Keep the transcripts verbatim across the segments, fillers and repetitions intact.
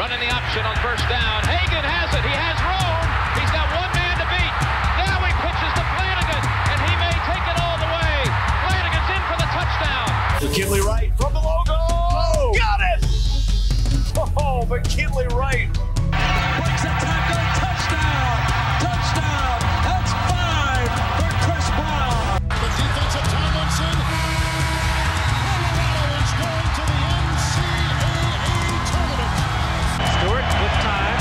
Running the option on first down. Hagan has it. He has room. He's got one man to beat. Now he pitches to Flanagan, and he may take it all the way. Flanagan's in for the touchdown. McKinley Wright from the logo. Oh, got it! Oh, McKinley Wright. Breaks a tackle. Touchdown. Touchdown. That's five for Chris Brown. The defensive Tomlinson. Colorado is going to the N C double A tournament. Stewart with time.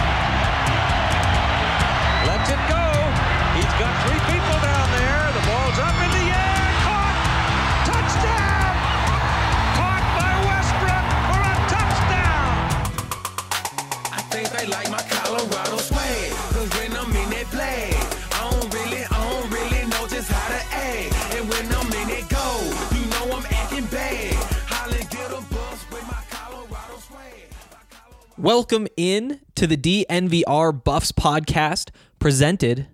Lets it go. He's got three people down there. The ball's up in the air. Caught. Touchdown. Caught by Westbrook for a touchdown. I think they like my Colorado swag. Cause when I'm in that play, I don't really, I don't really know just how to act. And when I'm in it go, you know I'm acting bad. Holland get a bus with my Colorado swag. Welcome in to the D N V R Buffs podcast presented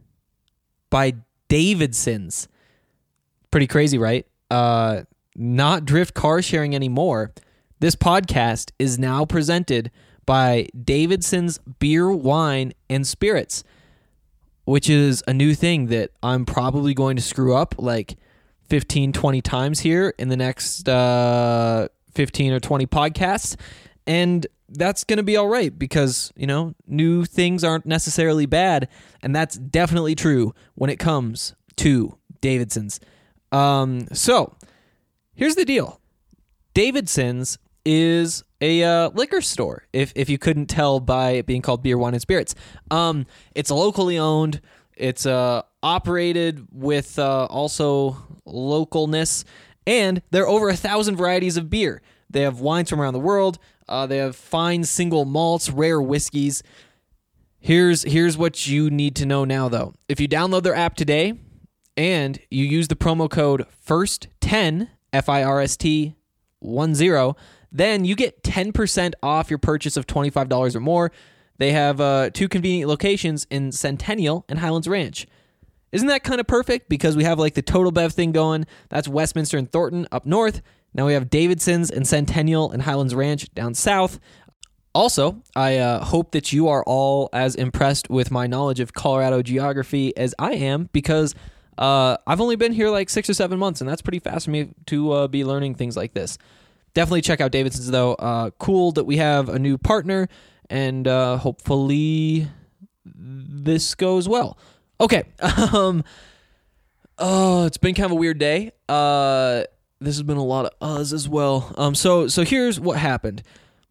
by Davidson's. Pretty crazy, right? Uh, not Drift car sharing anymore. This podcast is now presented by Davidson's Beer, Wine, and Spirits, which is a new thing that I'm probably going to screw up like fifteen, twenty times here in the next uh, fifteen or twenty podcasts. And that's going to be all right because, you know, new things aren't necessarily bad. And that's definitely true when it comes to Davidson's. Um, so here's the deal. Davidson's is a uh, liquor store, if if you couldn't tell by it being called Beer, Wine, and Spirits. Um, it's locally owned. It's uh, operated with uh, also localness. And there are over a thousand varieties of beer. They have wines from around the world. Uh, they have fine single malts, rare whiskeys. Here's here's what you need to know now, though. If you download their app today and you use the promo code first ten, F I R S T ten, then you get ten percent off your purchase of twenty-five dollars or more. They have uh, two convenient locations in Centennial and Highlands Ranch. Isn't that kind of perfect? Because we have like the Total Bev thing going. That's Westminster and Thornton up north. Now we have Davidson's and Centennial and Highlands Ranch down south. Also, I uh, hope that you are all as impressed with my knowledge of Colorado geography as I am, because uh, I've only been here like six or seven months, and that's pretty fast for me to uh, be learning things like this. Definitely check out Davidson's, though. Uh, cool that we have a new partner, and uh, hopefully this goes well. Okay. Um, oh, it's been kind of a weird day. Uh, this has been a lot of uhs as well. Um, so so here's what happened.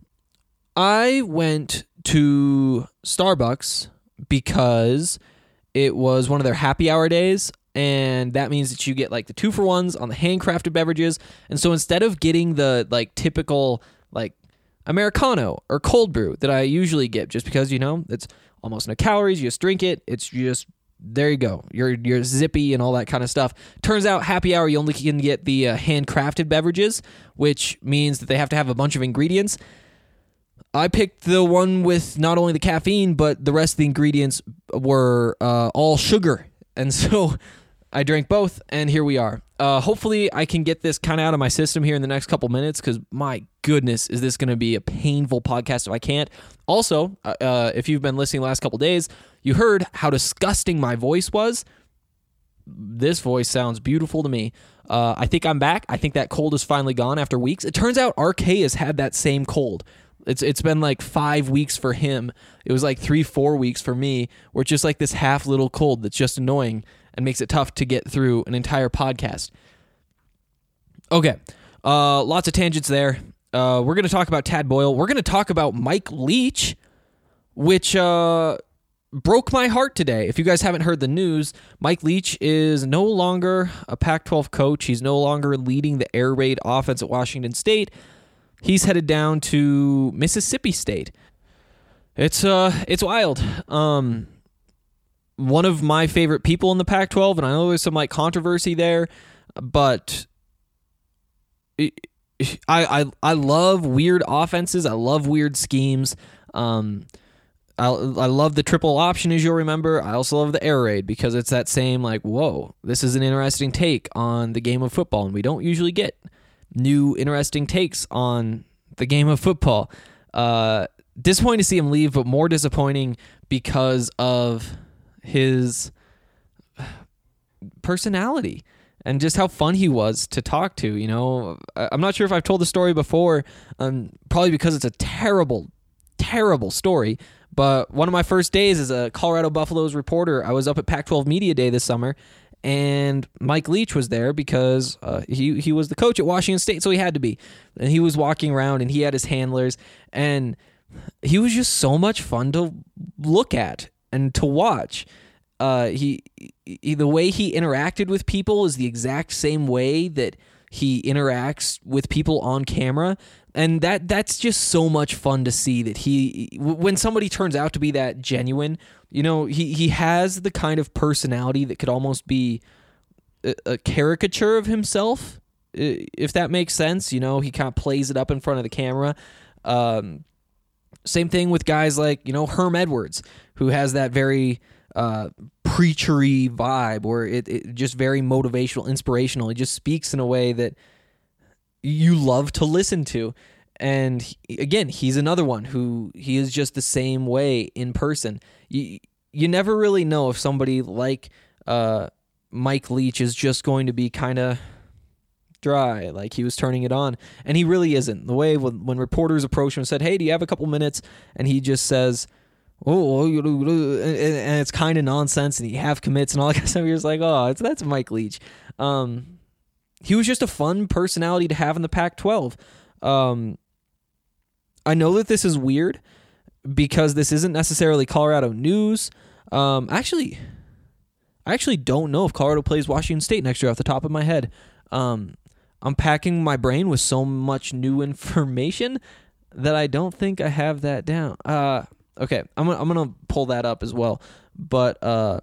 I went to Starbucks because it was one of their happy hour days, and that means that you get like the two for ones on the handcrafted beverages. And so instead of getting the like typical like Americano or cold brew that I usually get, just because, you know, it's almost no calories, you just drink it, it's just, there you go, you're you're zippy and all that kind of stuff. Turns out happy hour, you only can get the uh, handcrafted beverages, which means that they have to have a bunch of ingredients. I picked the one with not only the caffeine, but the rest of the ingredients were uh, all sugar. And so I drank both, and here we are. Uh, hopefully I can get this kind of out of my system here in the next couple minutes, because my goodness, is this going to be a painful podcast if I can't. Also, uh, if you've been listening the last couple days, you heard how disgusting my voice was. This voice sounds beautiful to me. Uh, I think I'm back. I think that cold is finally gone after weeks. It turns out R K has had that same cold. It's It's been like five weeks for him. It was like three, four weeks for me, where it's just like this half little cold that's just annoying and makes it tough to get through an entire podcast. Okay, uh, lots of tangents there. Uh, we're going to talk about Tad Boyle. We're going to talk about Mike Leach, which uh, broke my heart today. If you guys haven't heard the news, Mike Leach is no longer a Pac twelve coach. He's no longer leading the air raid offense at Washington State. He's headed down to Mississippi State. It's uh, it's wild. Um, one of my favorite people in the Pac twelve, and I know there's some like controversy there, but I I I love weird offenses. I love weird schemes. Um, I I love the triple option, as you'll remember. I also love the air raid because it's that same like, whoa, this is an interesting take on the game of football, and we don't usually get new interesting takes on the game of football. Uh, disappointing to see him leave, but more disappointing because of his personality and just how fun he was to talk to. You know, I'm not sure if I've told the story before, um, probably because it's a terrible, terrible story. But one of my first days as a Colorado Buffaloes reporter, I was up at Pac twelve Media Day this summer, and Mike Leach was there because uh, he he was the coach at Washington State, so he had to be. And he was walking around, and he had his handlers, and he was just so much fun to look at and to watch. Uh, he, he the way he interacted with people is the exact same way that he interacts with people on camera. And that that's just so much fun to see that he, when somebody turns out to be that genuine, you know, he, he has the kind of personality that could almost be a, a caricature of himself, if that makes sense. You know, he kind of plays it up in front of the camera. Um, same thing with guys like, you know, Herm Edwards, who has that very uh, preachery vibe where it, it just very motivational, inspirational. He just speaks in a way that you love to listen to. And he, again, he's another one who he is just the same way in person. You you never really know if somebody like uh, Mike Leach is just going to be kind of dry, like he was turning it on, and he really isn't. The way when, when reporters approach him and said, "Hey, do you have a couple minutes?" and he just says, "Oh," and it's kind of nonsense, and he half commits and all that kind of stuff. You're just like, "Oh, it's, that's Mike Leach." Um, he was just a fun personality to have in the Pac twelve. Um, I know that this is weird because this isn't necessarily Colorado news. Um, actually, I actually don't know if Colorado plays Washington State next year off the top of my head. Um, I'm packing my brain with so much new information that I don't think I have that down. Uh, okay, I'm gonna, I'm gonna pull that up as well. But uh,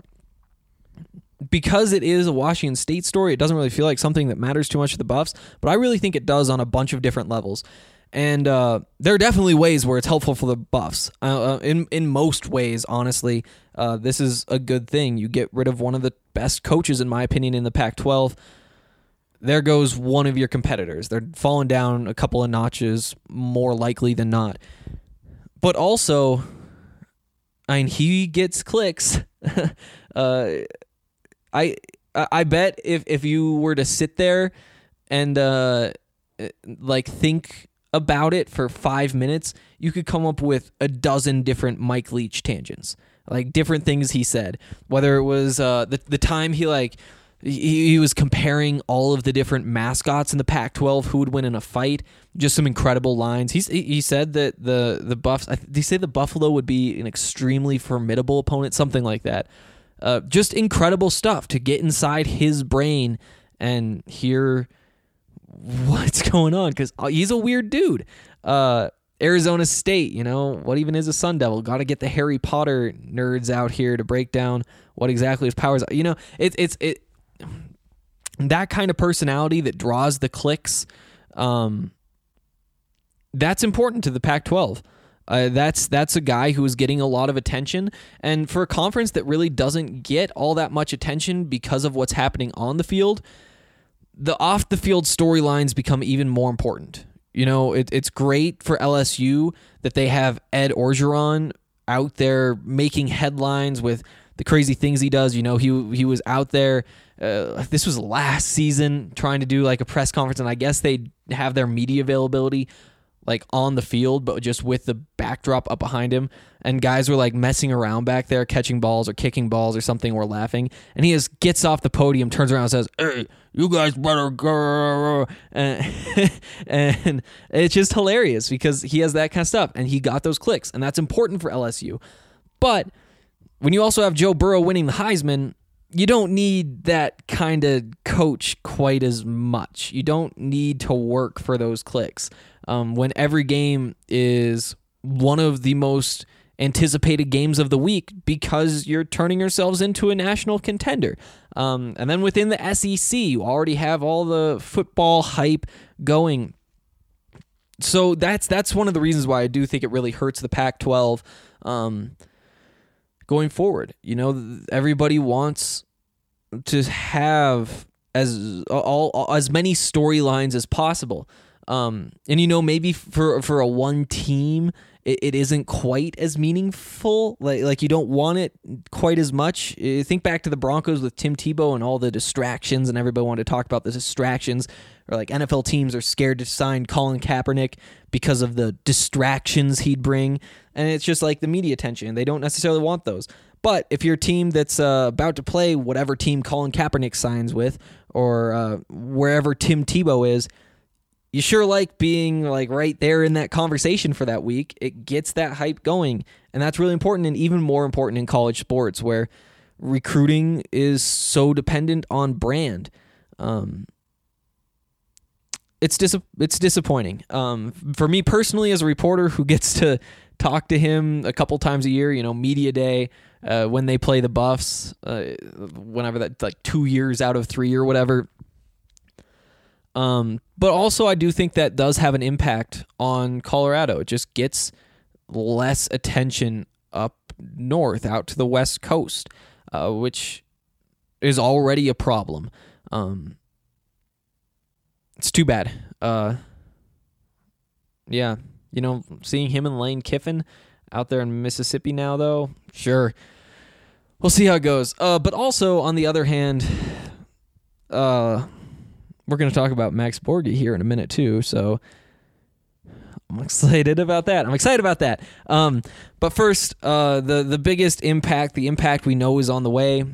because it is a Washington State story, it doesn't really feel like something that matters too much to the Buffs, but I really think it does on a bunch of different levels. And uh, there are definitely ways where it's helpful for the Buffs. Uh, in in most ways, honestly, uh, this is a good thing. You get rid of one of the best coaches, in my opinion, in the Pac twelve. There goes one of your competitors. They're falling down a couple of notches more likely than not. But also, I mean, he gets clicks. uh, I I bet if, if you were to sit there and uh, like think about it for five minutes, you could come up with a dozen different Mike Leach tangents, like different things he said. Whether it was uh, the the time he like he, he was comparing all of the different mascots in the Pac twelve who would win in a fight. Just some incredible lines. He's, he said that the the Buffs. Did he say the Buffalo would be an extremely formidable opponent? Something like that. Uh, just incredible stuff to get inside his brain and hear what's going on, because he's a weird dude. Uh, Arizona State, you know, what even is a Sun Devil? Got to get the Harry Potter nerds out here to break down what exactly his powers are. You know, it's it's it that kind of personality that draws the clicks. Um, that's important to the Pac twelve. Uh, that's that's a guy who is getting a lot of attention, and for a conference that really doesn't get all that much attention because of what's happening on the field, the off-the-field storylines become even more important. You know, it, it's great for L S U that they have Ed Orgeron out there making headlines with the crazy things he does. You know, he he was out there, uh, this was last season, trying to do like a press conference, and I guess they have their media availability like on the field, but just with the backdrop up behind him, and guys were like messing around back there, catching balls or kicking balls or something, or laughing, and he just gets off the podium, turns around and says, "Hey, you guys better go," and, and it's just hilarious because he has that kind of stuff, and he got those clicks, and that's important for L S U. But when you also have Joe Burrow winning the Heisman, you don't need that kind of coach quite as much. You don't need to work for those clicks. Um, when every game is one of the most anticipated games of the week because you're turning yourselves into a national contender. Um, and then within the S E C, you already have all the football hype going. So that's that's one of the reasons why I do think it really hurts the Pac twelve um, going forward. You know, everybody wants to have as all, all as many storylines as possible. Um, and, you know, maybe for for a one team, it, it isn't quite as meaningful. Like like you don't want it quite as much. Uh, Think back to the Broncos with Tim Tebow and all the distractions, and everybody wanted to talk about the distractions. Or like N F L teams are scared to sign Colin Kaepernick because of the distractions he'd bring. And it's just like the media attention. They don't necessarily want those. But if you're a team that's uh, about to play whatever team Colin Kaepernick signs with, or uh, wherever Tim Tebow is, you sure like being like right there in that conversation for that week. It gets that hype going. And that's really important, and even more important in college sports where recruiting is so dependent on brand. Um, It's dis- it's disappointing. Um, for me personally, as a reporter who gets to talk to him a couple times a year, you know, media day, uh, when they play the Buffs, uh, whenever that, like two years out of three or whatever. Um, but also I do think that does have an impact on Colorado. It just gets less attention up north, out to the West Coast, uh, which is already a problem. Um, It's too bad. Uh, yeah, you know, seeing him and Lane Kiffin out there in Mississippi now, though, sure. We'll see how it goes. Uh, but also, on the other hand, uh, we're going to talk about Max Borghi here in a minute, too, so I'm excited about that. I'm excited about that. Um, but first, uh, the, the biggest impact, the impact we know is on the way.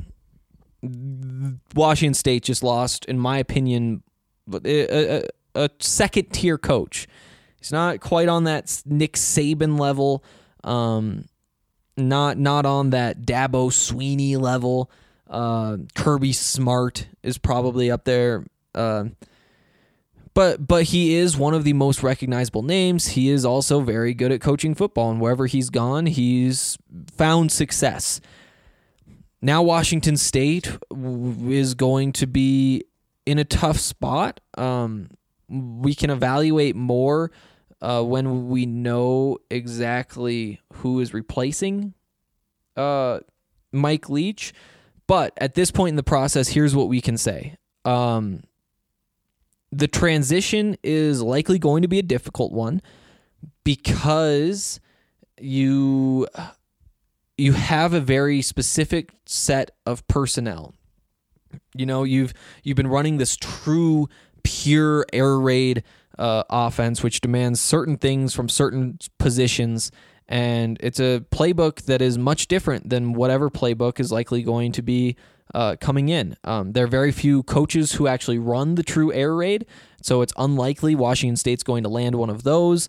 Washington State just lost, in my opinion, a, a, a second-tier coach. He's not quite on that Nick Saban level, um, not not on that Dabo Sweeney level. Uh, Kirby Smart is probably up there, uh, but but he is one of the most recognizable names. He is also very good at coaching football, and wherever he's gone, he's found success. Now Washington State is going to be in a tough spot. Um, we can evaluate more uh, when we know exactly who is replacing uh, Mike Leach. But at this point in the process, here's what we can say. Um, the transition is likely going to be a difficult one because you you have a very specific set of personnel. You know, you've you've been running this true, pure air raid uh, offense, which demands certain things from certain positions, and it's a playbook that is much different than whatever playbook is likely going to be uh, coming in. Um, there are very few coaches who actually run the true air raid, so it's unlikely Washington State's going to land one of those.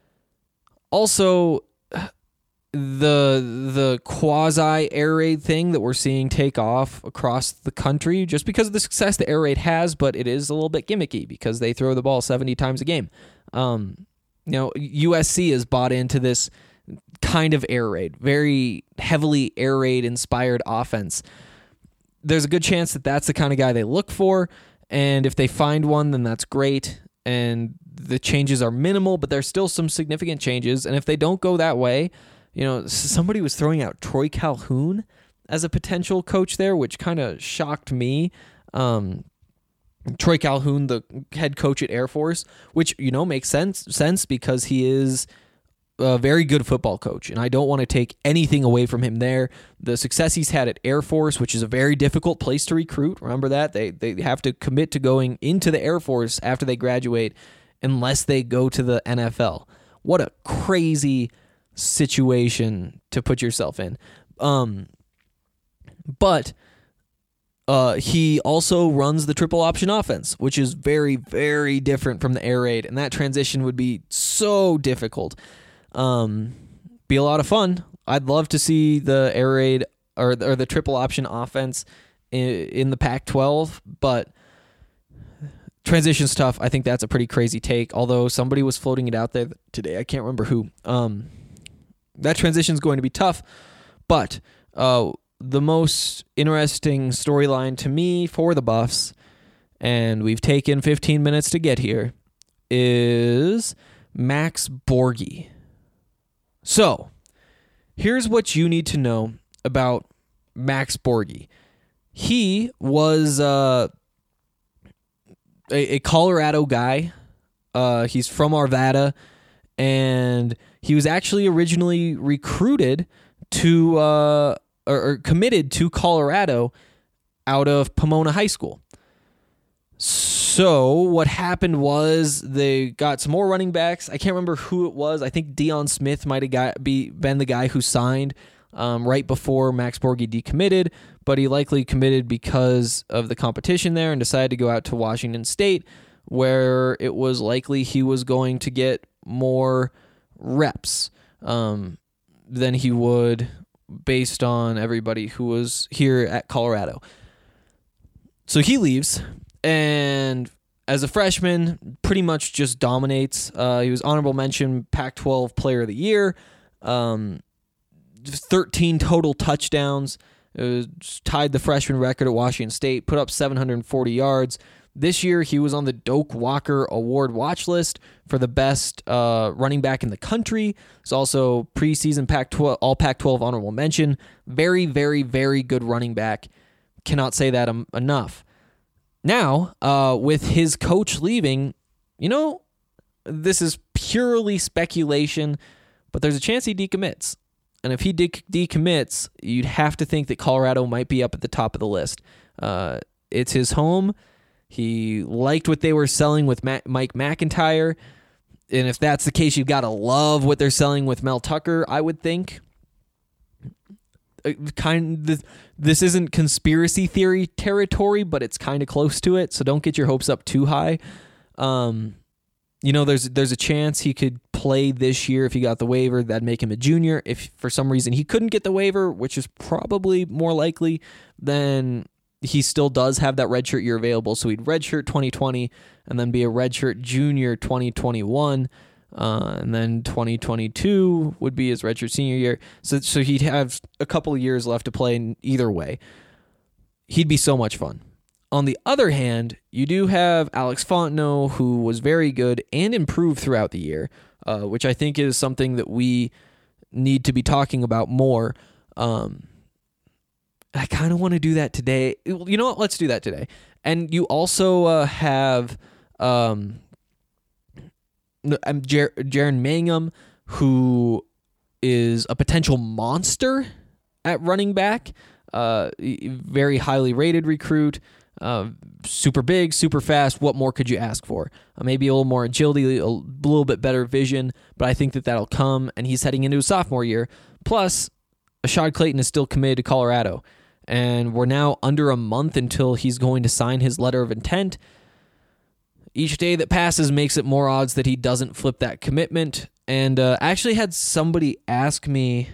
Also, the the quasi air raid thing that we're seeing take off across the country just because of the success the air raid has, but it is a little bit gimmicky because they throw the ball seventy times a game. Um, you know, U S C has bought into this kind of air raid, very heavily air raid inspired offense. There's a good chance that that's the kind of guy they look for, and if they find one, then that's great. And the changes are minimal, but there's still some significant changes. And if they don't go that way, you know, somebody was throwing out Troy Calhoun as a potential coach there, which kind of shocked me. Um, Troy Calhoun, the head coach at Air Force, which, you know, makes sense sense because he is a very good football coach, and I don't want to take anything away from him there. The success he's had at Air Force, which is a very difficult place to recruit. Remember that? They they have to commit to going into the Air Force after they graduate unless they go to the N F L. What a crazy situation to put yourself in. Um, but uh, he also runs the triple option offense, which is very, very different from the air raid, and that transition would be so difficult. Um, be a lot of fun. I'd love to see the air raid or, or the triple option offense in, in the Pac twelve, but transition's tough. I think that's a pretty crazy take, although somebody was floating it out there today. I can't remember who. Um, that transition's going to be tough, but uh, the most interesting storyline to me for the Buffs, and we've taken fifteen minutes to get here, is Max Borghi. So, here's what you need to know about Max Borghi. He was uh, a, a Colorado guy. Uh, he's from Arvada, and He was actually originally recruited to uh, or, or committed to Colorado out of Pomona High School. So what happened was they got some more running backs. I can't remember who it was. I think Deion Smith might have got be been the guy who signed um, right before Max Borghi decommitted, but he likely committed because of the competition there and decided to go out to Washington State, where it was likely he was going to get more reps um, than he would based on everybody who was here at Colorado. So he leaves, and as a freshman, pretty much just dominates. Uh, he was honorable mention Pac twelve Player of the Year, um, thirteen total touchdowns. It was tied the freshman record at Washington State, put up seven hundred forty yards. This year, he was on the Doak Walker Award watch list for the best uh, running back in the country. It's also preseason Pac twelve, all Pac twelve honorable mention. Very, very, very good running back. Cannot say that um, enough. Now, uh, with his coach leaving, you know, this is purely speculation, but there's a chance he decommits. And if he de- decommits, you'd have to think that Colorado might be up at the top of the list. Uh, it's his home. He liked what they were selling with Ma- Mike McIntyre. And if that's the case, you've got to love what they're selling with Mel Tucker, I would think. Kind of, this isn't conspiracy theory territory, but it's kind of close to it, so don't get your hopes up too high. Um, you know, there's there's a chance he could play this year if he got the waiver. That'd make him a junior. If for some reason he couldn't get the waiver, which is probably more likely, then he still does have that redshirt year available. So he'd redshirt twenty twenty and then be a redshirt junior twenty twenty-one. Uh, and then twenty twenty-two would be his redshirt senior year. So, so he'd have a couple of years left to play in either way. He'd be so much fun. On the other hand, you do have Alex Fontenot, who was very good and improved throughout the year, uh, which I think is something that we need to be talking about more. Um, I kind of want to do that today. You know what? Let's do that today. And you also uh, have... Um, I'm Jer- Jaren Mangham, who is a potential monster at running back, uh, very highly rated recruit, uh, super big, super fast. What more could you ask for? Uh, maybe a little more agility, a little bit better vision, but I think that that'll come, and he's heading into his sophomore year. Plus, Ashad Clayton is still committed to Colorado, and we're now under a month until he's going to sign his letter of intent. Each day that passes makes it more odds that he doesn't flip that commitment. And uh, I actually had somebody ask me,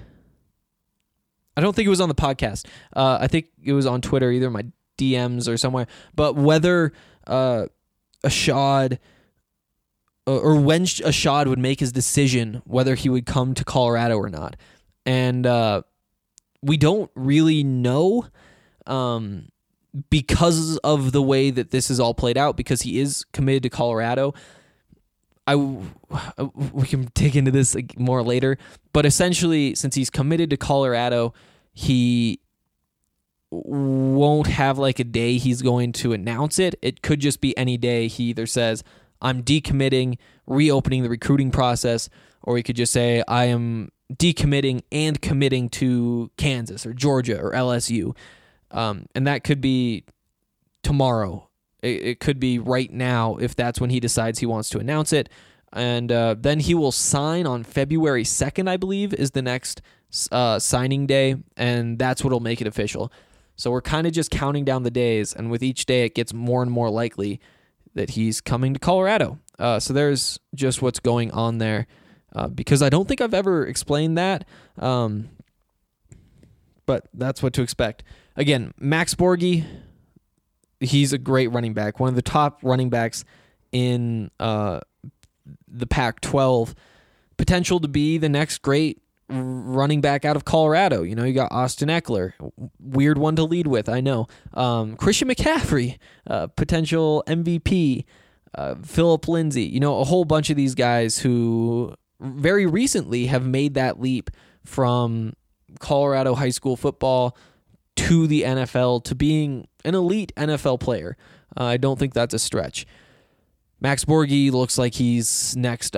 I don't think it was on the podcast. Uh, I think it was on Twitter, either my D Ms or somewhere. But whether uh, Ashad, or when Ashad would make his decision whether he would come to Colorado or not. And uh, we don't really know. Um Because of the way that this is all played out, because he is committed to Colorado. I, we can dig into this more later, but essentially, since he's committed to Colorado, he won't have like a day he's going to announce it. It could just be any day he either says, I'm decommitting, reopening the recruiting process, or he could just say, I am decommitting and committing to Kansas or Georgia or L S U. Um, and that could be tomorrow. It, it could be right now if that's when he decides he wants to announce it. And uh, then he will sign on February second, I believe, is the next uh, signing day. And that's what will make it official. So we're kind of just counting down the days. And with each day, it gets more and more likely that he's coming to Colorado. Uh, so there's just what's going on there. Uh, because I don't think I've ever explained that. Um, but that's what to expect. Again, Max Borghi, he's a great running back, one of the top running backs in uh, the Pac twelve. Potential to be the next great running back out of Colorado. You know, you got Austin Eckler, weird one to lead with, I know. Um, Christian McCaffrey, uh, potential M V P. Uh, Philip Lindsay, you know, a whole bunch of these guys who very recently have made that leap from Colorado high school football to the N F L, to being an elite N F L player. Uh, I don't think that's a stretch. Max Borghi looks like he's next up.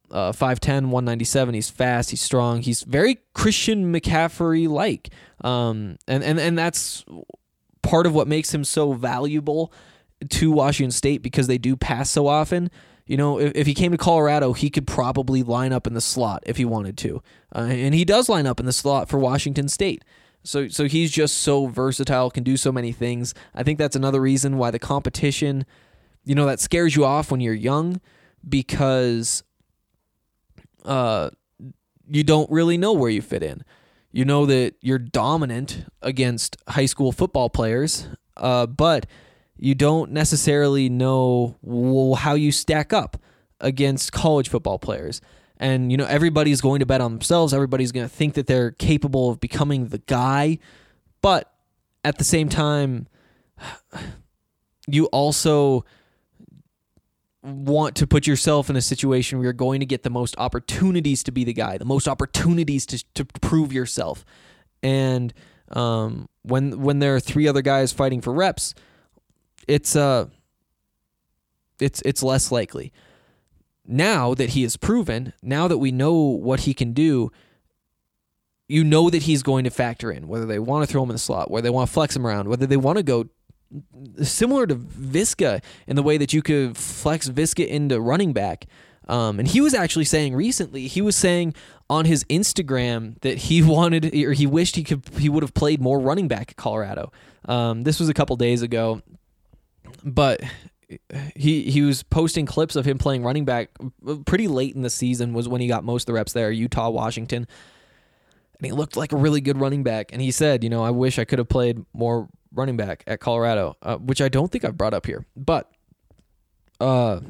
Uh, five ten, one ninety-seven. He's fast. He's strong. He's very Christian McCaffrey-like. Um, and, and, and that's part of what makes him so valuable to Washington State, because they do pass so often. You know, if, if he came to Colorado, he could probably line up in the slot if he wanted to. Uh, and he does line up in the slot for Washington State. So so he's just so versatile, can do so many things. I think that's another reason why the competition, you know, that scares you off when you're young, because uh, you don't really know where you fit in. You know that you're dominant against high school football players, uh, but you don't necessarily know how you stack up against college football players. And, you know, everybody's going to bet on themselves. Everybody's going to think that they're capable of becoming the guy. But at the same time, you also want to put yourself in a situation where you're going to get the most opportunities to be the guy, the most opportunities to to prove yourself. And um, when when there are three other guys fighting for reps, it's uh, it's it's less likely. Now that he is proven, now that we know what he can do, you know that he's going to factor in, whether they want to throw him in the slot, whether they want to flex him around, whether they want to go similar to Viska in the way that you could flex Viska into running back. Um, and he was actually saying recently, he was saying on his Instagram that he wanted, or he wished he could, he would have played more running back at Colorado. Um, this was a couple days ago, but he he was posting clips of him playing running back pretty late in the season, was when he got most of the reps there, Utah, Washington. And he looked like a really good running back. And he said, you know, I wish I could have played more running back at Colorado, uh, which I don't think I've brought up here. But, uh,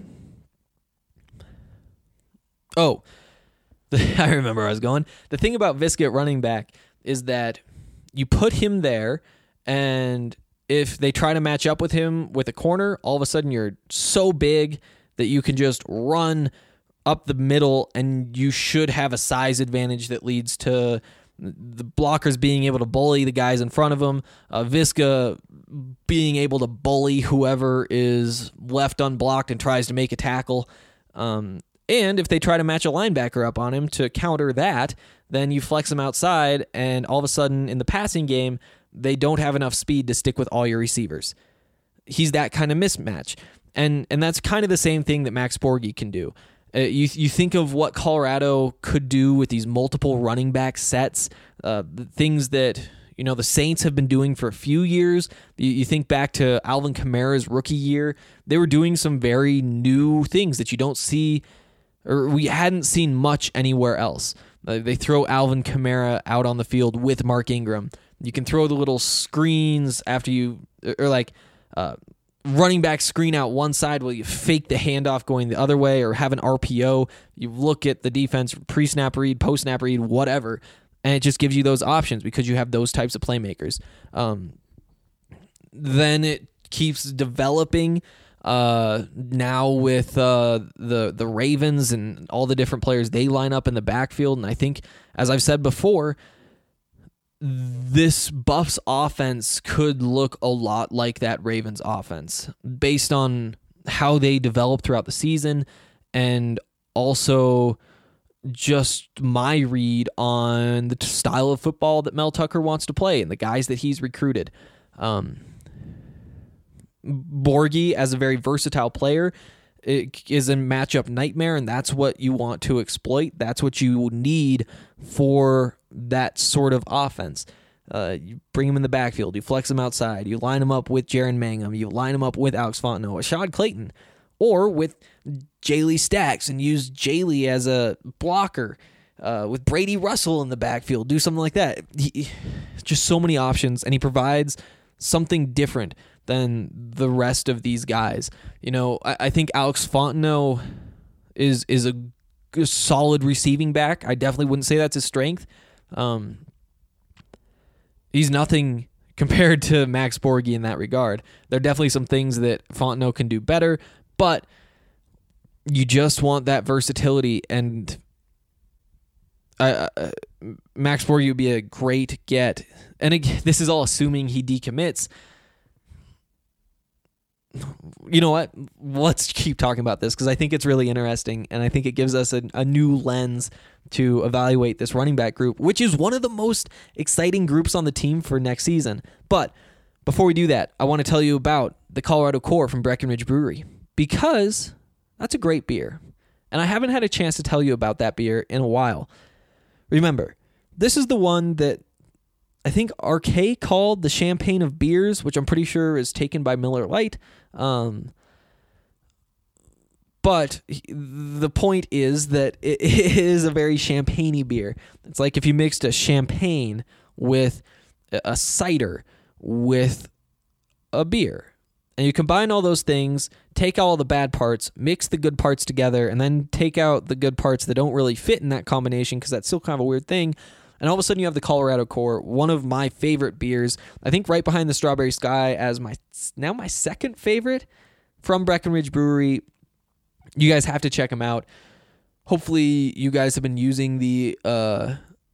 oh, I remember where I was going. The thing about Viska at running back is that you put him there, and if they try to match up with him with a corner, all of a sudden you're so big that you can just run up the middle, and you should have a size advantage that leads to the blockers being able to bully the guys in front of them, uh, Viska being able to bully whoever is left unblocked and tries to make a tackle. Um, and if they try to match a linebacker up on him to counter that, then you flex him outside, and all of a sudden in the passing game, they don't have enough speed to stick with all your receivers. He's that kind of mismatch. And and that's kind of the same thing that Max Borghi can do. Uh, you you think of what Colorado could do with these multiple running back sets, uh, the things that, you know, the Saints have been doing for a few years. You, you think back to Alvin Kamara's rookie year. They were doing some very new things that you don't see, or we hadn't seen much anywhere else. Uh, they throw Alvin Kamara out on the field with Mark Ingram. You can throw the little screens after you, or like uh, running back screen out one side while you fake the handoff going the other way, or have an R P O. You look at the defense, pre-snap read, post-snap read, whatever, and it just gives you those options because you have those types of playmakers. Um, then it keeps developing uh, now with uh, the the Ravens and all the different players they line up in the backfield. And I think, as I've said before, this Buffs offense could look a lot like that Ravens offense based on how they develop throughout the season, and also just my read on the style of football that Mel Tucker wants to play and the guys that he's recruited. Um, Borghi, as a very versatile player, it is a matchup nightmare, and that's what you want to exploit. That's what you need for that sort of offense. Uh, you bring him in the backfield, you flex him outside, you line him up with Jaron Mangum, you line him up with Alex Fontenot, Ashad Clayton, or with Jaylee Stacks and use Jaylee as a blocker, uh, with Brady Russell in the backfield, do something like that. He, just so many options, and he provides something different than the rest of these guys. You know, I, I think Alex Fontenot is is a, a solid receiving back. I definitely wouldn't say that's his strength. Um, he's nothing compared to Max Borghi in that regard. There are definitely some things that Fontenot can do better, but you just want that versatility, and uh, uh, Max Borghi would be a great get. And again, this is all assuming he decommits. you know what? Let's keep talking about this because I think it's really interesting, and I think it gives us a, a new lens to evaluate this running back group, which is one of the most exciting groups on the team for next season. But before we do that, I want to tell you about the Colorado Core from Breckenridge Brewery, because that's a great beer, and I haven't had a chance to tell you about that beer in a while. Remember, this is the one that I think R K called the champagne of beers, which I'm pretty sure is taken by Miller Lite. Um, but the point is that it is a very champagne-y beer. It's like if you mixed a champagne with a cider with a beer. And you combine all those things, take out all the bad parts, mix the good parts together, and then take out the good parts that don't really fit in that combination because that's still kind of a weird thing. And all of a sudden you have the Colorado Core, one of my favorite beers. I think right behind the Strawberry Sky as my now my second favorite from Breckenridge Brewery. You guys have to check them out. Hopefully you guys have been using the uh,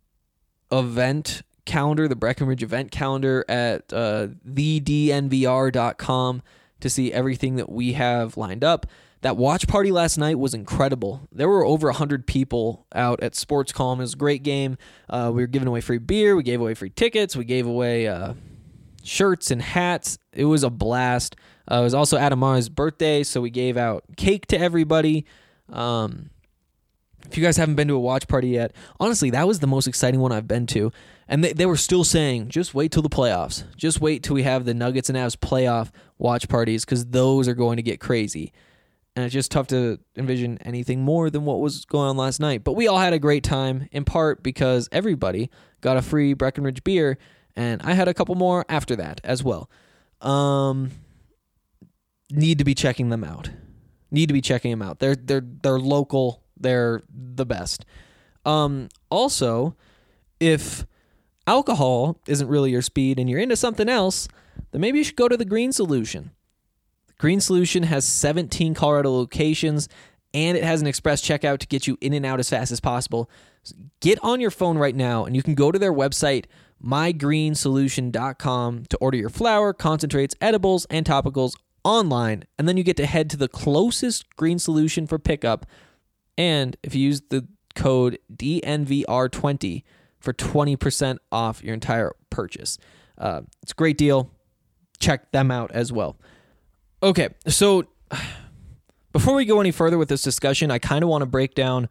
event calendar, the Breckenridge event calendar at uh, the d n v r dot com to see everything that we have lined up. That watch party last night was incredible. There were over one hundred people out at Sports Calm. It was a great game. Uh, we were giving away free beer. We gave away free tickets. We gave away uh, shirts and hats. It was a blast. Uh, it was also Adam Mara's birthday, so we gave out cake to everybody. Um, if you guys haven't been to a watch party yet, honestly, that was the most exciting one I've been to. And they, they were still saying, just wait till the playoffs. Just wait till we have the Nuggets and Avs playoff watch parties because those are going to get crazy. And it's just tough to envision anything more than what was going on last night. But we all had a great time, in part because everybody got a free Breckenridge beer, and I had a couple more after that as well. Um, need to be checking them out. Need to be checking them out. They're they're they're local. They're the best. Um, also, if alcohol isn't really your speed and you're into something else, then maybe you should go to the Green Solution. Green Solution has seventeen Colorado locations, and it has an express checkout to get you in and out as fast as possible. So get on your phone right now, and you can go to their website, my green solution dot com, to order your flour, concentrates, edibles, and topicals online, and then you get to head to the closest Green Solution for pickup. And if you use the code D N V R twenty for twenty percent off your entire purchase. Uh, it's a great deal. Check them out as well. Okay, so before we go any further with this discussion, I kind of want to break down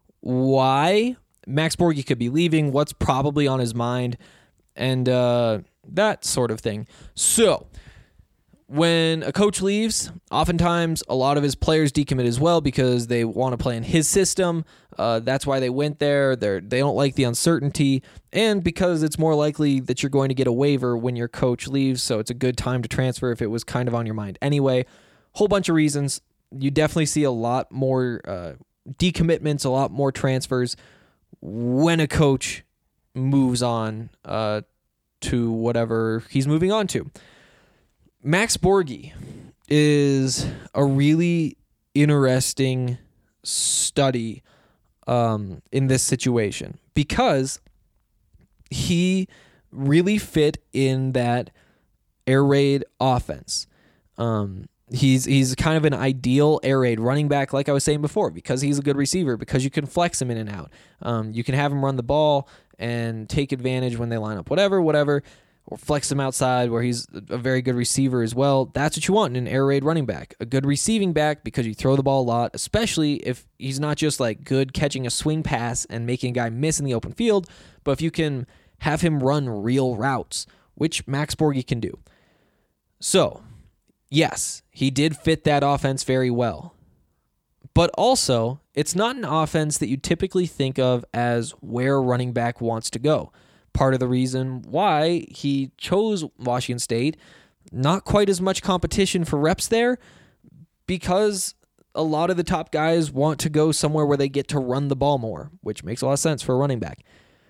why Max Borghi could be leaving, what's probably on his mind, and uh, that sort of thing. So, when a coach leaves, oftentimes a lot of his players decommit as well because they want to play in his system. Uh, that's why they went there. They're, they don't like the uncertainty, and because it's more likely that you're going to get a waiver when your coach leaves, so it's a good time to transfer if it was kind of on your mind anyway. Whole bunch of reasons. You definitely see a lot more uh, decommitments, a lot more transfers when a coach moves on uh, to whatever he's moving on to. Max Borghi is a really interesting study um, in this situation because he really fit in that air raid offense. Um, he's he's kind of an ideal air raid running back, like I was saying before, because he's a good receiver, because you can flex him in and out. Um, you can have him run the ball and take advantage when they line up, whatever, whatever. Or flex him outside where he's a very good receiver as well. That's what you want in an air raid running back. A good receiving back because you throw the ball a lot, especially if he's not just like good catching a swing pass and making a guy miss in the open field, but if you can have him run real routes, which Max Borghi can do. So, yes, he did fit that offense very well. But also, it's not an offense that you typically think of as where a running back wants to go. Part of the reason why he chose Washington State, not quite as much competition for reps there, because a lot of the top guys want to go somewhere where they get to run the ball more, which makes a lot of sense for a running back.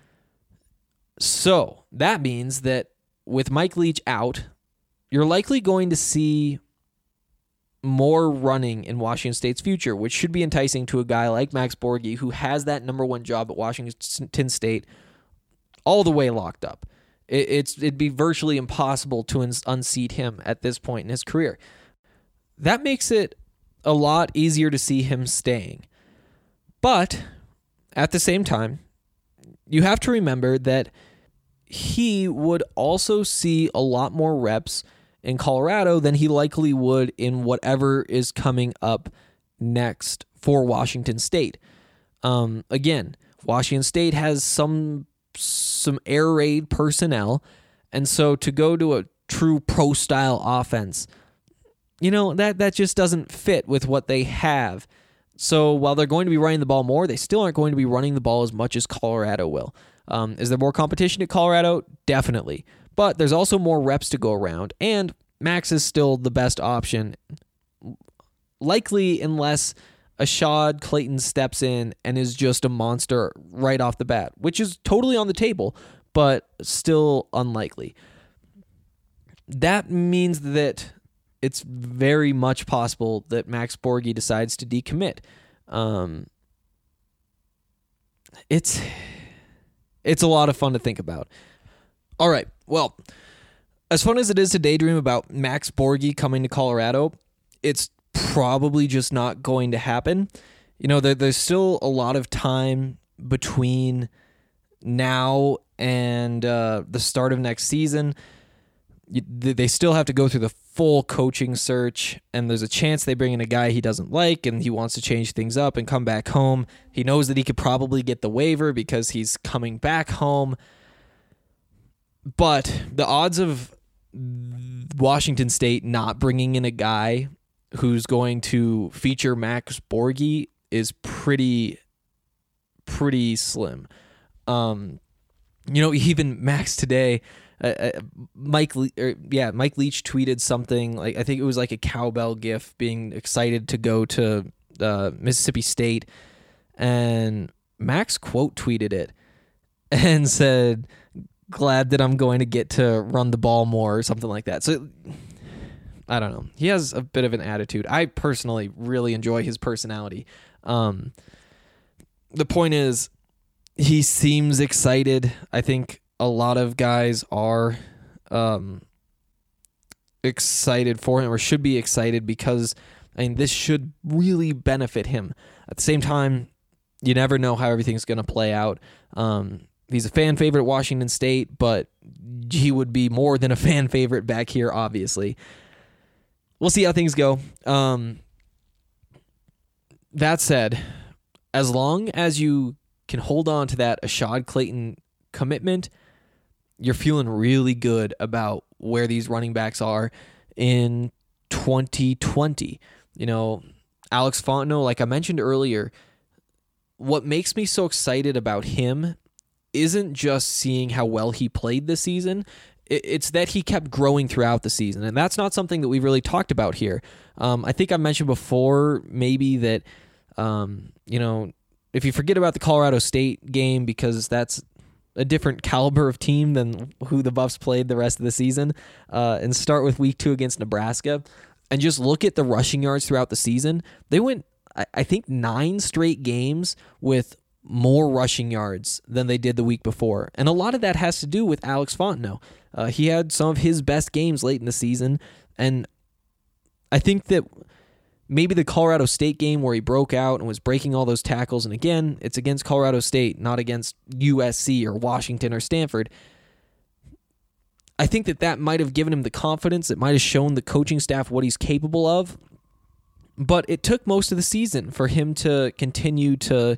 So that means that with Mike Leach out, you're likely going to see more running in Washington State's future, which should be enticing to a guy like Max Borghi, who has that number one job at Washington State all the way locked up. It, it's it'd be virtually impossible to un- unseat him at this point in his career. that makes it a lot easier to see him staying. But at the same time, you have to remember that he would also see a lot more reps in Colorado than he likely would in whatever is coming up next for Washington State. Um, again, Washington State has some some air raid personnel, and so to go to a true pro-style offense, you know, that, that just doesn't fit with what they have. So while they're going to be running the ball more, they still aren't going to be running the ball as much as Colorado will. Um, is there more competition at Colorado? Definitely. But there's also more reps to go around, and Max is still the best option, likely unless Ashad Clayton steps in and is just a monster right off the bat, which is totally on the table, but still unlikely. That means that it's very much possible that Max Borghi decides to decommit. Um, it's it's a lot of fun to think about. All right, well, as fun as it is to daydream about Max Borghi coming to Colorado, it's probably just not going to happen. You know, there, there's still a lot of time between now and uh, the start of next season. You, they still have to go through the full coaching search, and there's a chance they bring in a guy he doesn't like and he wants to change things up and come back home. He knows that he could probably get the waiver because he's coming back home. But the odds of Washington State not bringing in a guy who's going to feature Max Borghi is pretty, pretty slim. Um, you know, even Max today, uh, uh, Mike, Le- or, yeah, Mike Leach tweeted something like, I think it was like a cowbell gif, being excited to go to uh, Mississippi State, and Max quote tweeted it and said, "Glad that I'm going to get to run the ball more," or something like that. So I don't know. He has a bit of an attitude. I personally really enjoy his personality. Um, the point is, he seems excited. I think a lot of guys are um, excited for him, or should be excited, because I mean, this should really benefit him. At the same time, you never know how everything's going to play out. Um, he's a fan favorite at Washington State, but he would be more than a fan favorite back here, obviously. We'll see how things go. Um, that said, as long as you can hold on to that Ashad Clayton commitment, you're feeling really good about where these running backs are in twenty twenty. You know, Alex Fontenot, like I mentioned earlier, what makes me so excited about him isn't just seeing how well he played this season. It's that he kept growing throughout the season, and that's not something that we've really talked about here. Um, I think I mentioned before maybe that, um, you know, if you forget about the Colorado State game because that's a different caliber of team than who the Buffs played the rest of the season, uh, and start with week two against Nebraska, and just look at the rushing yards throughout the season, they went, I think, nine straight games with more rushing yards than they did the week before. And a lot of that has to do with Alex Fontenot. Uh, he had some of his best games late in the season, and I think that maybe the Colorado State game where he broke out and was breaking all those tackles, and again, it's against Colorado State, not against U S C or Washington or Stanford. I think that that might have given him the confidence. It might have shown the coaching staff what he's capable of, but it took most of the season for him to continue to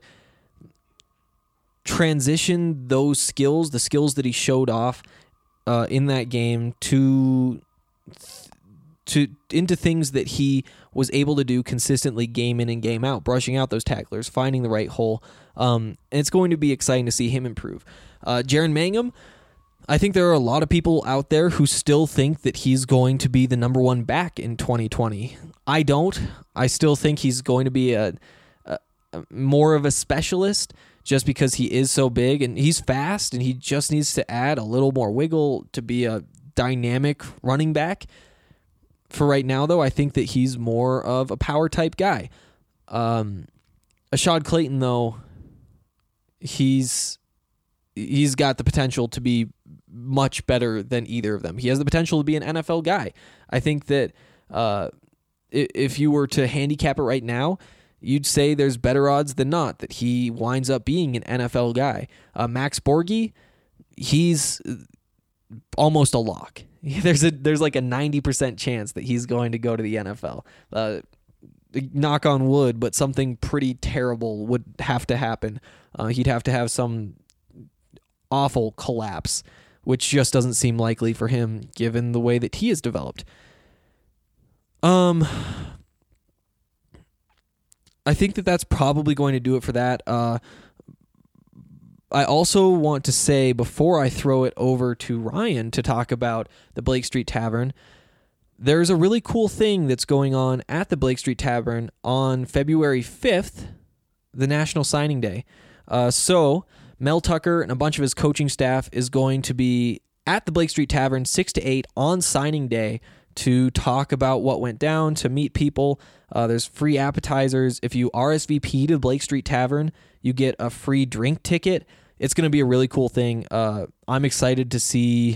transition those skills, the skills that he showed off uh, in that game, to to into things that he was able to do consistently game in and game out, brushing out those tacklers, finding the right hole. Um, and it's going to be exciting to see him improve. Uh, Jaren Mangham, I think there are a lot of people out there who still think that he's going to be the number one back in twenty twenty. I don't. I still think he's going to be a, a, a more of a specialist, just because he is so big and he's fast, and he just needs to add a little more wiggle to be a dynamic running back. For right now, though, I think that he's more of a power type guy. Um, Ashad Clayton, though, he's he's got the potential to be much better than either of them. He has the potential to be an N F L guy. I think that uh, i- if you were to handicap it right now, you'd say there's better odds than not that he winds up being an N F L guy. Uh, Max Borghi, he's almost a lock. There's a there's like a ninety percent chance that he's going to go to the N F L. Uh, knock on wood, but something pretty terrible would have to happen. Uh, he'd have to have some awful collapse, which just doesn't seem likely for him given the way that he has developed. Um, I think that that's probably going to do it for that. Uh, I also want to say, before I throw it over to Ryan to talk about the Blake Street Tavern, there's a really cool thing that's going on at the Blake Street Tavern on February fifth, the National Signing Day. Uh, so Mel Tucker and a bunch of his coaching staff is going to be at the Blake Street Tavern six to eight on signing day to talk about what went down, to meet people. Uh, there's free appetizers. If you R S V P to Blake Street Tavern, you get a free drink ticket. It's going to be a really cool thing. Uh, I'm excited to see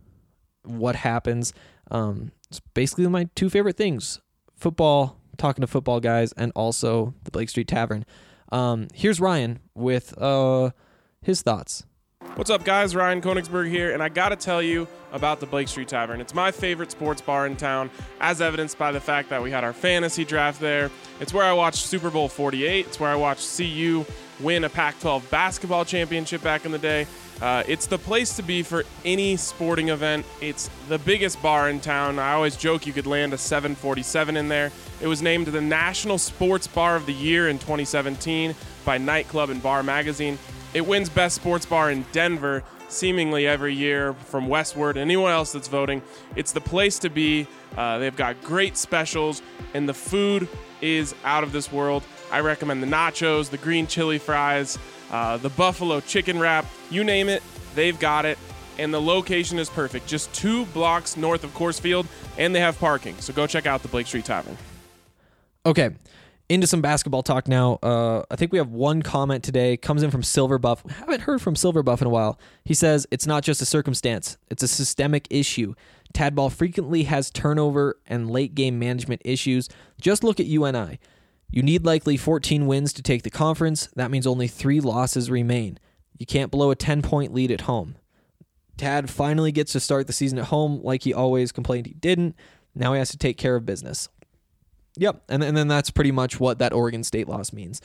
what happens. Um, it's basically my two favorite things: football, talking to football guys, and also the Blake Street Tavern. Um, here's Ryan with uh, his thoughts. What's up, guys? Ryan Konigsberg here, and I gotta tell you about the Blake Street Tavern. It's my favorite sports bar in town, as evidenced by the fact that we had our fantasy draft there. It's where I watched Super Bowl forty-eight. It's where I watched C U win a Pac twelve basketball championship back in the day. Uh, it's the place to be for any sporting event. It's the biggest bar in town. I always joke you could land a seven forty-seven in there. It was named the National Sports Bar of the Year in twenty seventeen by Nightclub and Bar Magazine. It wins Best Sports Bar in Denver seemingly every year from Westward. Anyone else that's voting, it's the place to be. Uh, they've got great specials, and the food is out of this world. I recommend the nachos, the green chili fries, uh, the buffalo chicken wrap. You name it, they've got it. And the location is perfect. Just two blocks north of Coors Field, and they have parking. So go check out the Blake Street Tavern. Okay, into some basketball talk now. Uh, I think we have one comment today. Comes in from Silverbuff. We haven't heard from Silverbuff in a while. He says, it's not just a circumstance. It's a systemic issue. Tadball frequently has turnover and late game management issues. Just look at U N I. You need likely fourteen wins to take the conference. That means only three losses remain. You can't blow a ten-point lead at home. Tad finally gets to start the season at home like he always complained he didn't. Now he has to take care of business. Yep, and, and then that's pretty much what that Oregon State loss means.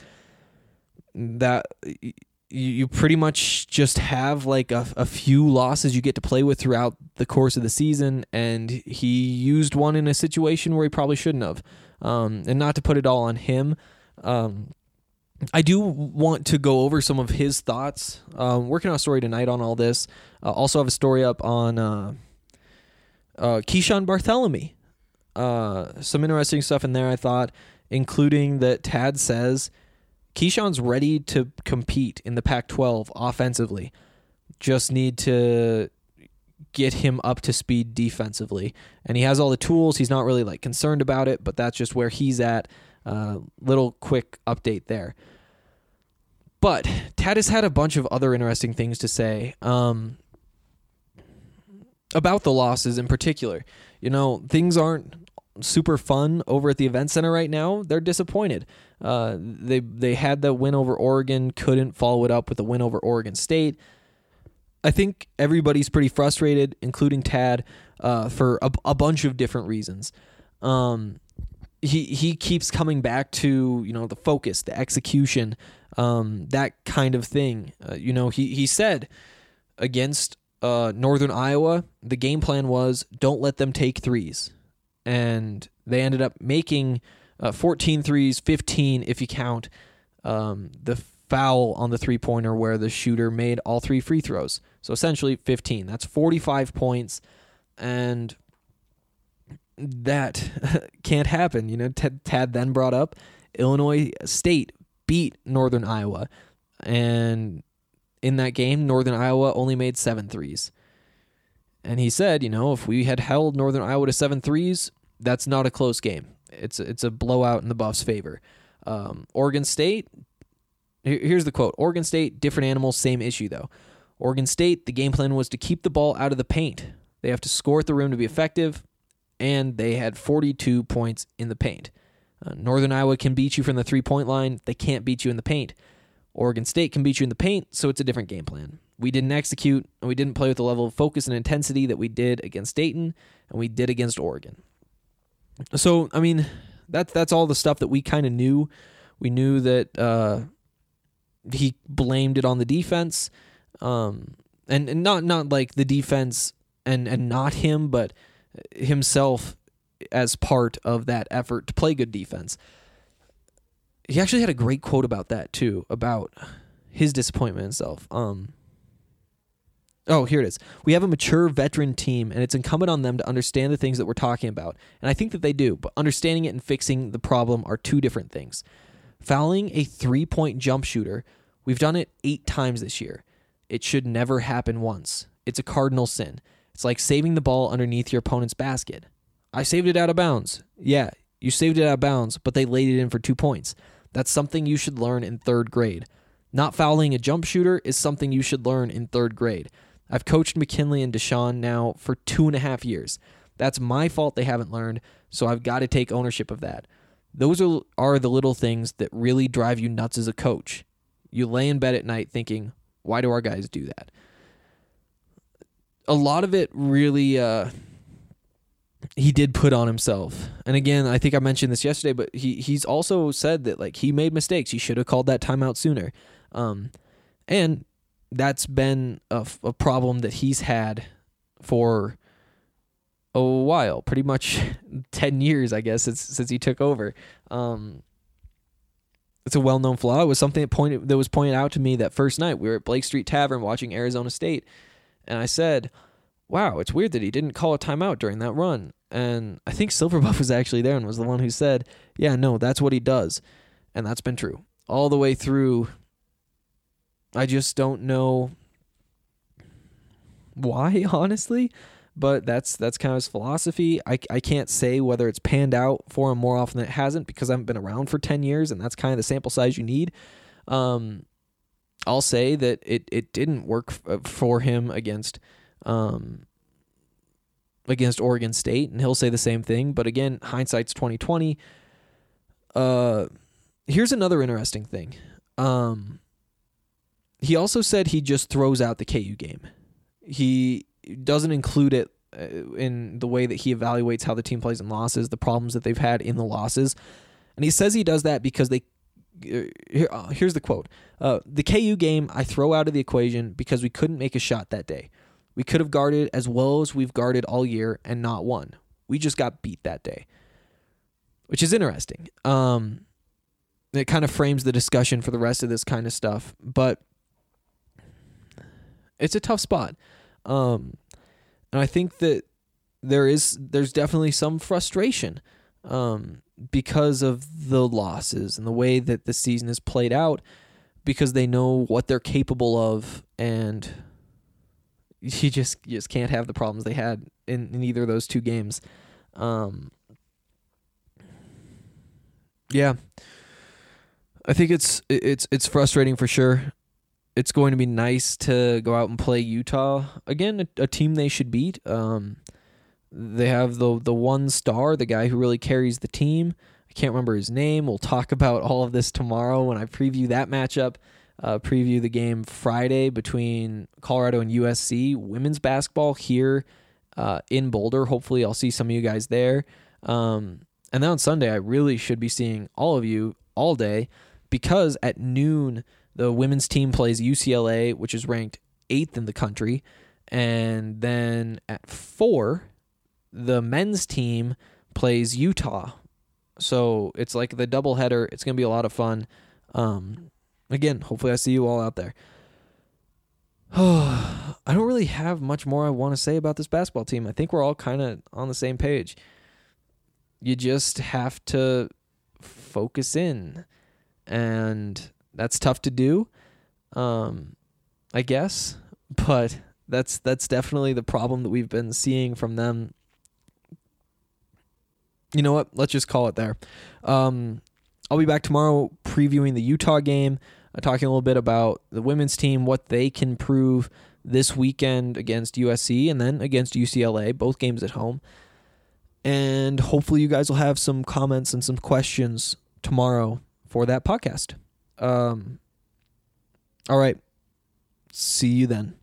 That you, you pretty much just have like a, a few losses you get to play with throughout the course of the season, and he used one in a situation where he probably shouldn't have. Um, and not to put it all on him, um, I do want to go over some of his thoughts. Um, working on a story tonight on all this. Uh, also have a story up on uh, uh, Keyshawn Bartholomew. Uh, some interesting stuff in there, I thought, including that Tad says Keyshawn's ready to compete in the Pac twelve offensively. Just need to get him up to speed defensively. And he has all the tools. He's not really like concerned about it, but that's just where he's at. Uh, little quick update there. But Tad has had a bunch of other interesting things to say um, about the losses in particular. You know, things aren't super fun over at the event center right now. They're disappointed. Uh, they they had the win over Oregon, couldn't follow it up with a win over Oregon State. I think everybody's pretty frustrated, including Tad, uh, for a, a bunch of different reasons. Um, he he keeps coming back to, you know, the focus, the execution, um, that kind of thing. Uh, you know, he he said against uh, Northern Iowa, the game plan was don't let them take threes. And they ended up making uh, fourteen threes, fifteen if you count um, the foul on the three-pointer where the shooter made all three free throws. So essentially fifteen. That's forty-five points, and that can't happen. You know, Tad, Tad then brought up Illinois State beat Northern Iowa, and in that game, Northern Iowa only made seven threes. And he said, you know, if we had held Northern Iowa to seven threes, that's not a close game. It's it's a blowout in the Buffs' favor. Um, Oregon State, here's the quote. Oregon State, different animals, same issue, though. Oregon State, the game plan was to keep the ball out of the paint. They have to score at the rim to be effective. and they had forty-two points in the paint. Uh, Northern Iowa can beat you from the three-point line. They can't beat you in the paint. Oregon State can beat you in the paint, so it's a different game plan. We didn't execute, and we didn't play with the level of focus and intensity that we did against Dayton, and we did against Oregon. So, I mean, that's that's all the stuff that we kind of knew. We knew that uh, he blamed it on the defense, um, and, and not not like the defense and, and not him, but himself as part of that effort to play good defense. He actually had a great quote about that, too, about his disappointment in himself. Um, oh, here it is. We have a mature veteran team, and it's incumbent on them to understand the things that we're talking about. And I think that they do, but understanding it and fixing the problem are two different things. Fouling a three-point jump shooter, we've done it eight times this year. It should never happen once. It's a cardinal sin. It's like saving the ball underneath your opponent's basket. I saved it out of bounds. Yeah, you saved it out of bounds, but they laid it in for two points. That's something you should learn in third grade. Not fouling a jump shooter is something you should learn in third grade. I've coached McKinley and Deshaun now for two and a half years. That's my fault they haven't learned, so I've got to take ownership of that. Those are, are the little things that really drive you nuts as a coach. You lay in bed at night thinking, why do our guys do that? A lot of it really... Uh, he did put on himself. And again, I think I mentioned this yesterday, but he he's also said that like he made mistakes. He should have called that timeout sooner. Um, and that's been a, a problem that he's had for a while, pretty much ten years, I guess, since, since he took over. Um, it's a well-known flaw. It was something that pointed that was pointed out to me that first night. We were at Blake Street Tavern watching Arizona State, and I said, wow, it's weird that he didn't call a timeout during that run. And I think Silverbuff was actually there and was the one who said, yeah, no, that's what he does. And that's been true. All the way through, I just don't know why, honestly, but that's that's kind of his philosophy. I, I can't say whether it's panned out for him more often than it hasn't because I haven't been around for ten years, and that's kind of the sample size you need. Um, I'll say that it, it didn't work f- for him against... Um, against Oregon State, and he'll say the same thing. But again, hindsight's twenty twenty. Uh, here's another interesting thing. Um, he also said he just throws out the K U game. He doesn't include it in the way that he evaluates how the team plays in losses, the problems that they've had in the losses. And he says he does that because they... Here, uh, here's the quote. Uh, the K U game I throw out of the equation because we couldn't make a shot that day. We could have guarded as well as we've guarded all year and not won. We just got beat that day, which is interesting. Um, it kind of frames the discussion for the rest of this kind of stuff, but it's a tough spot. Um, and I think that there is, there's definitely some frustration um, because of the losses and the way that the season is played out, because they know what they're capable of, and you just you just can't have the problems they had in, in either of those two games. Um, yeah, I think it's it's it's frustrating for sure. It's going to be nice to go out and play Utah again, a, a team they should beat. Um, they have the the one star, the guy who really carries the team. I can't remember his name. We'll talk about all of this tomorrow when I preview that matchup. Uh, preview the game Friday between Colorado and U S C women's basketball here uh, in Boulder. Hopefully I'll see some of you guys there. Um, and then on Sunday, I really should be seeing all of you all day, because at noon, the women's team plays U C L A, which is ranked eighth in the country. And then at four, the men's team plays Utah. So it's like the doubleheader. It's going to be a lot of fun. Um, Again, hopefully I see you all out there. I don't really have much more I want to say about this basketball team. I think we're all kind of on the same page. You just have to focus in, and that's tough to do, um, I guess. But that's that's definitely the problem that we've been seeing from them. You know what? Let's just call it there. Um, I'll be back tomorrow previewing the Utah game. Uh, talking a little bit about the women's team, what they can prove this weekend against U S C and then against U C L A, both games at home. And hopefully you guys will have some comments and some questions tomorrow for that podcast. Um, all right. See you then.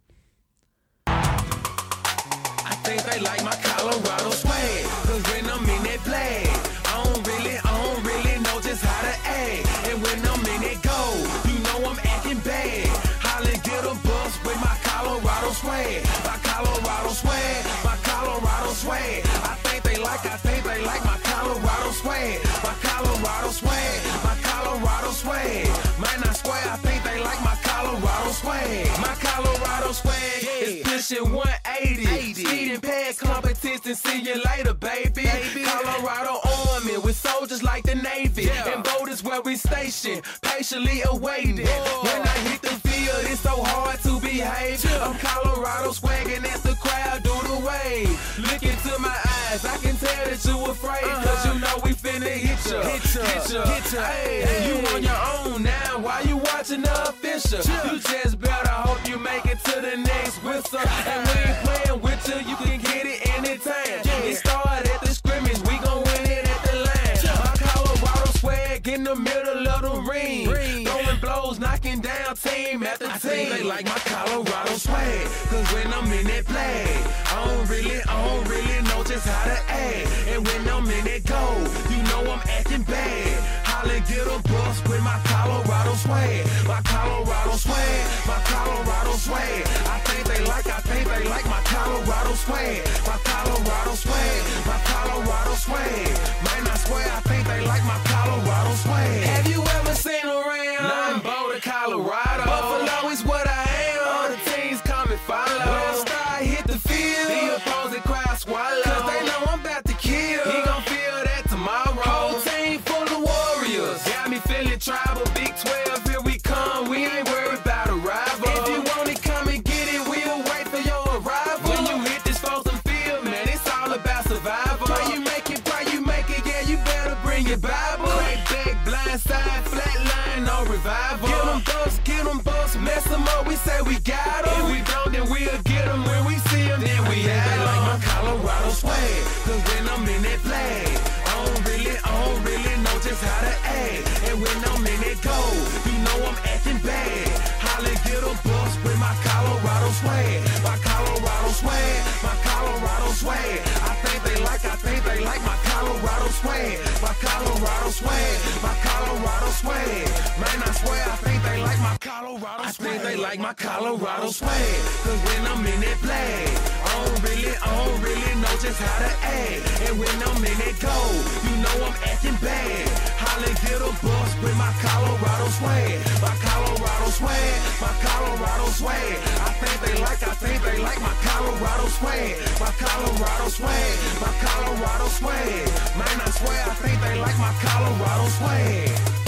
I think they like my Colorado swag, cause when I'm in that flag, I don't really, I don't really know just how to act. And when I'm in that gold, you know I'm acting bad. Holly get a bus with my Colorado swag, my Colorado swag, my Colorado swag. I think they like, I think they like my Colorado swag, my Colorado swag, my Colorado swag. Man, I swear, I think they like my Colorado swag, my Colorado swag is pushing one eighty. Speeding past competition, see you later, baby. baby. Colorado Army with soldiers like the Navy. Yeah. And voters where we stationed, patiently awaiting. Whoa. When I hit the field, it's so hard to behave. Yeah. I'm Colorado swagging as the crowd do the wave. Look into my eyes, I can tell that you afraid. Uh-huh. Cause you know we finna hit ya, hit ya, hit ya, hit ya. Hey, hey. You on your own now, why you watching the official? Yeah. You just better hope you make it to the next whistle. And we ain't playing with you, you can get it anytime. Yeah. It started at the scrimmage, we gon' win it at the line. Yeah. My Colorado swag in the middle of the ring. ring. Throwing blows, knocking down team after team. I think they like my Colorado swag, cause when I'm in that flag, I don't really, I don't really know just how to act. And when I'm in that gold, you know I'm acting bad. Holly get a bus with my Colorado swag, my Colorado swag, my Colorado swag. I think they like, I think they like my Colorado swag, my Colorado swag, my Colorado swag. Man, I swear, I think they like my Colorado swag. Have you ever seen around? Nine Boulder, Colorado. Buffalo is what I am. All the teams come and follow. When I start hit the field, the opposing crowd swallow. Cause they know I'm about to kill. He gon' feel that tomorrow. Whole team full of warriors. Got me feeling tribal. Big twelve, here we come. We ain't worried about a rival. If you want it, come and get it. We'll wait for your arrival. When you hit this frozen field, man, it's all about survival. Pray you make it, pray you make it. Yeah, you better bring your Bible. Crack back, blind side, flat line, no revival. Get them bucks, get them bucks, mess them up. We say we got them. If we don't, then we'll get them. When we see them, then we have them. Like my Colorado swag, cause when I'm in that flag, I don't really, I don't really know just how to act. And when I'm in that gold, you know I'm acting bad. Holly get a bus with my Colorado swag, my Colorado swag, my Colorado swag. I think they like, I think they like my Colorado swag, my Colorado swag, my Colorado swag. Man, I swear, I think they like my Colorado swag. I think they like my Colorado swag, cause when I'm in that flag, I don't really, I don't really know just how to act. And when I'm in that gold, you know I'm acting bad. Holly get a bus with my Colorado swag, my Colorado swag, my Colorado swag. I think they like, I think they like my Colorado swag, my Colorado swag, my Colorado swag. Man, I swear, I think they like my Colorado swag.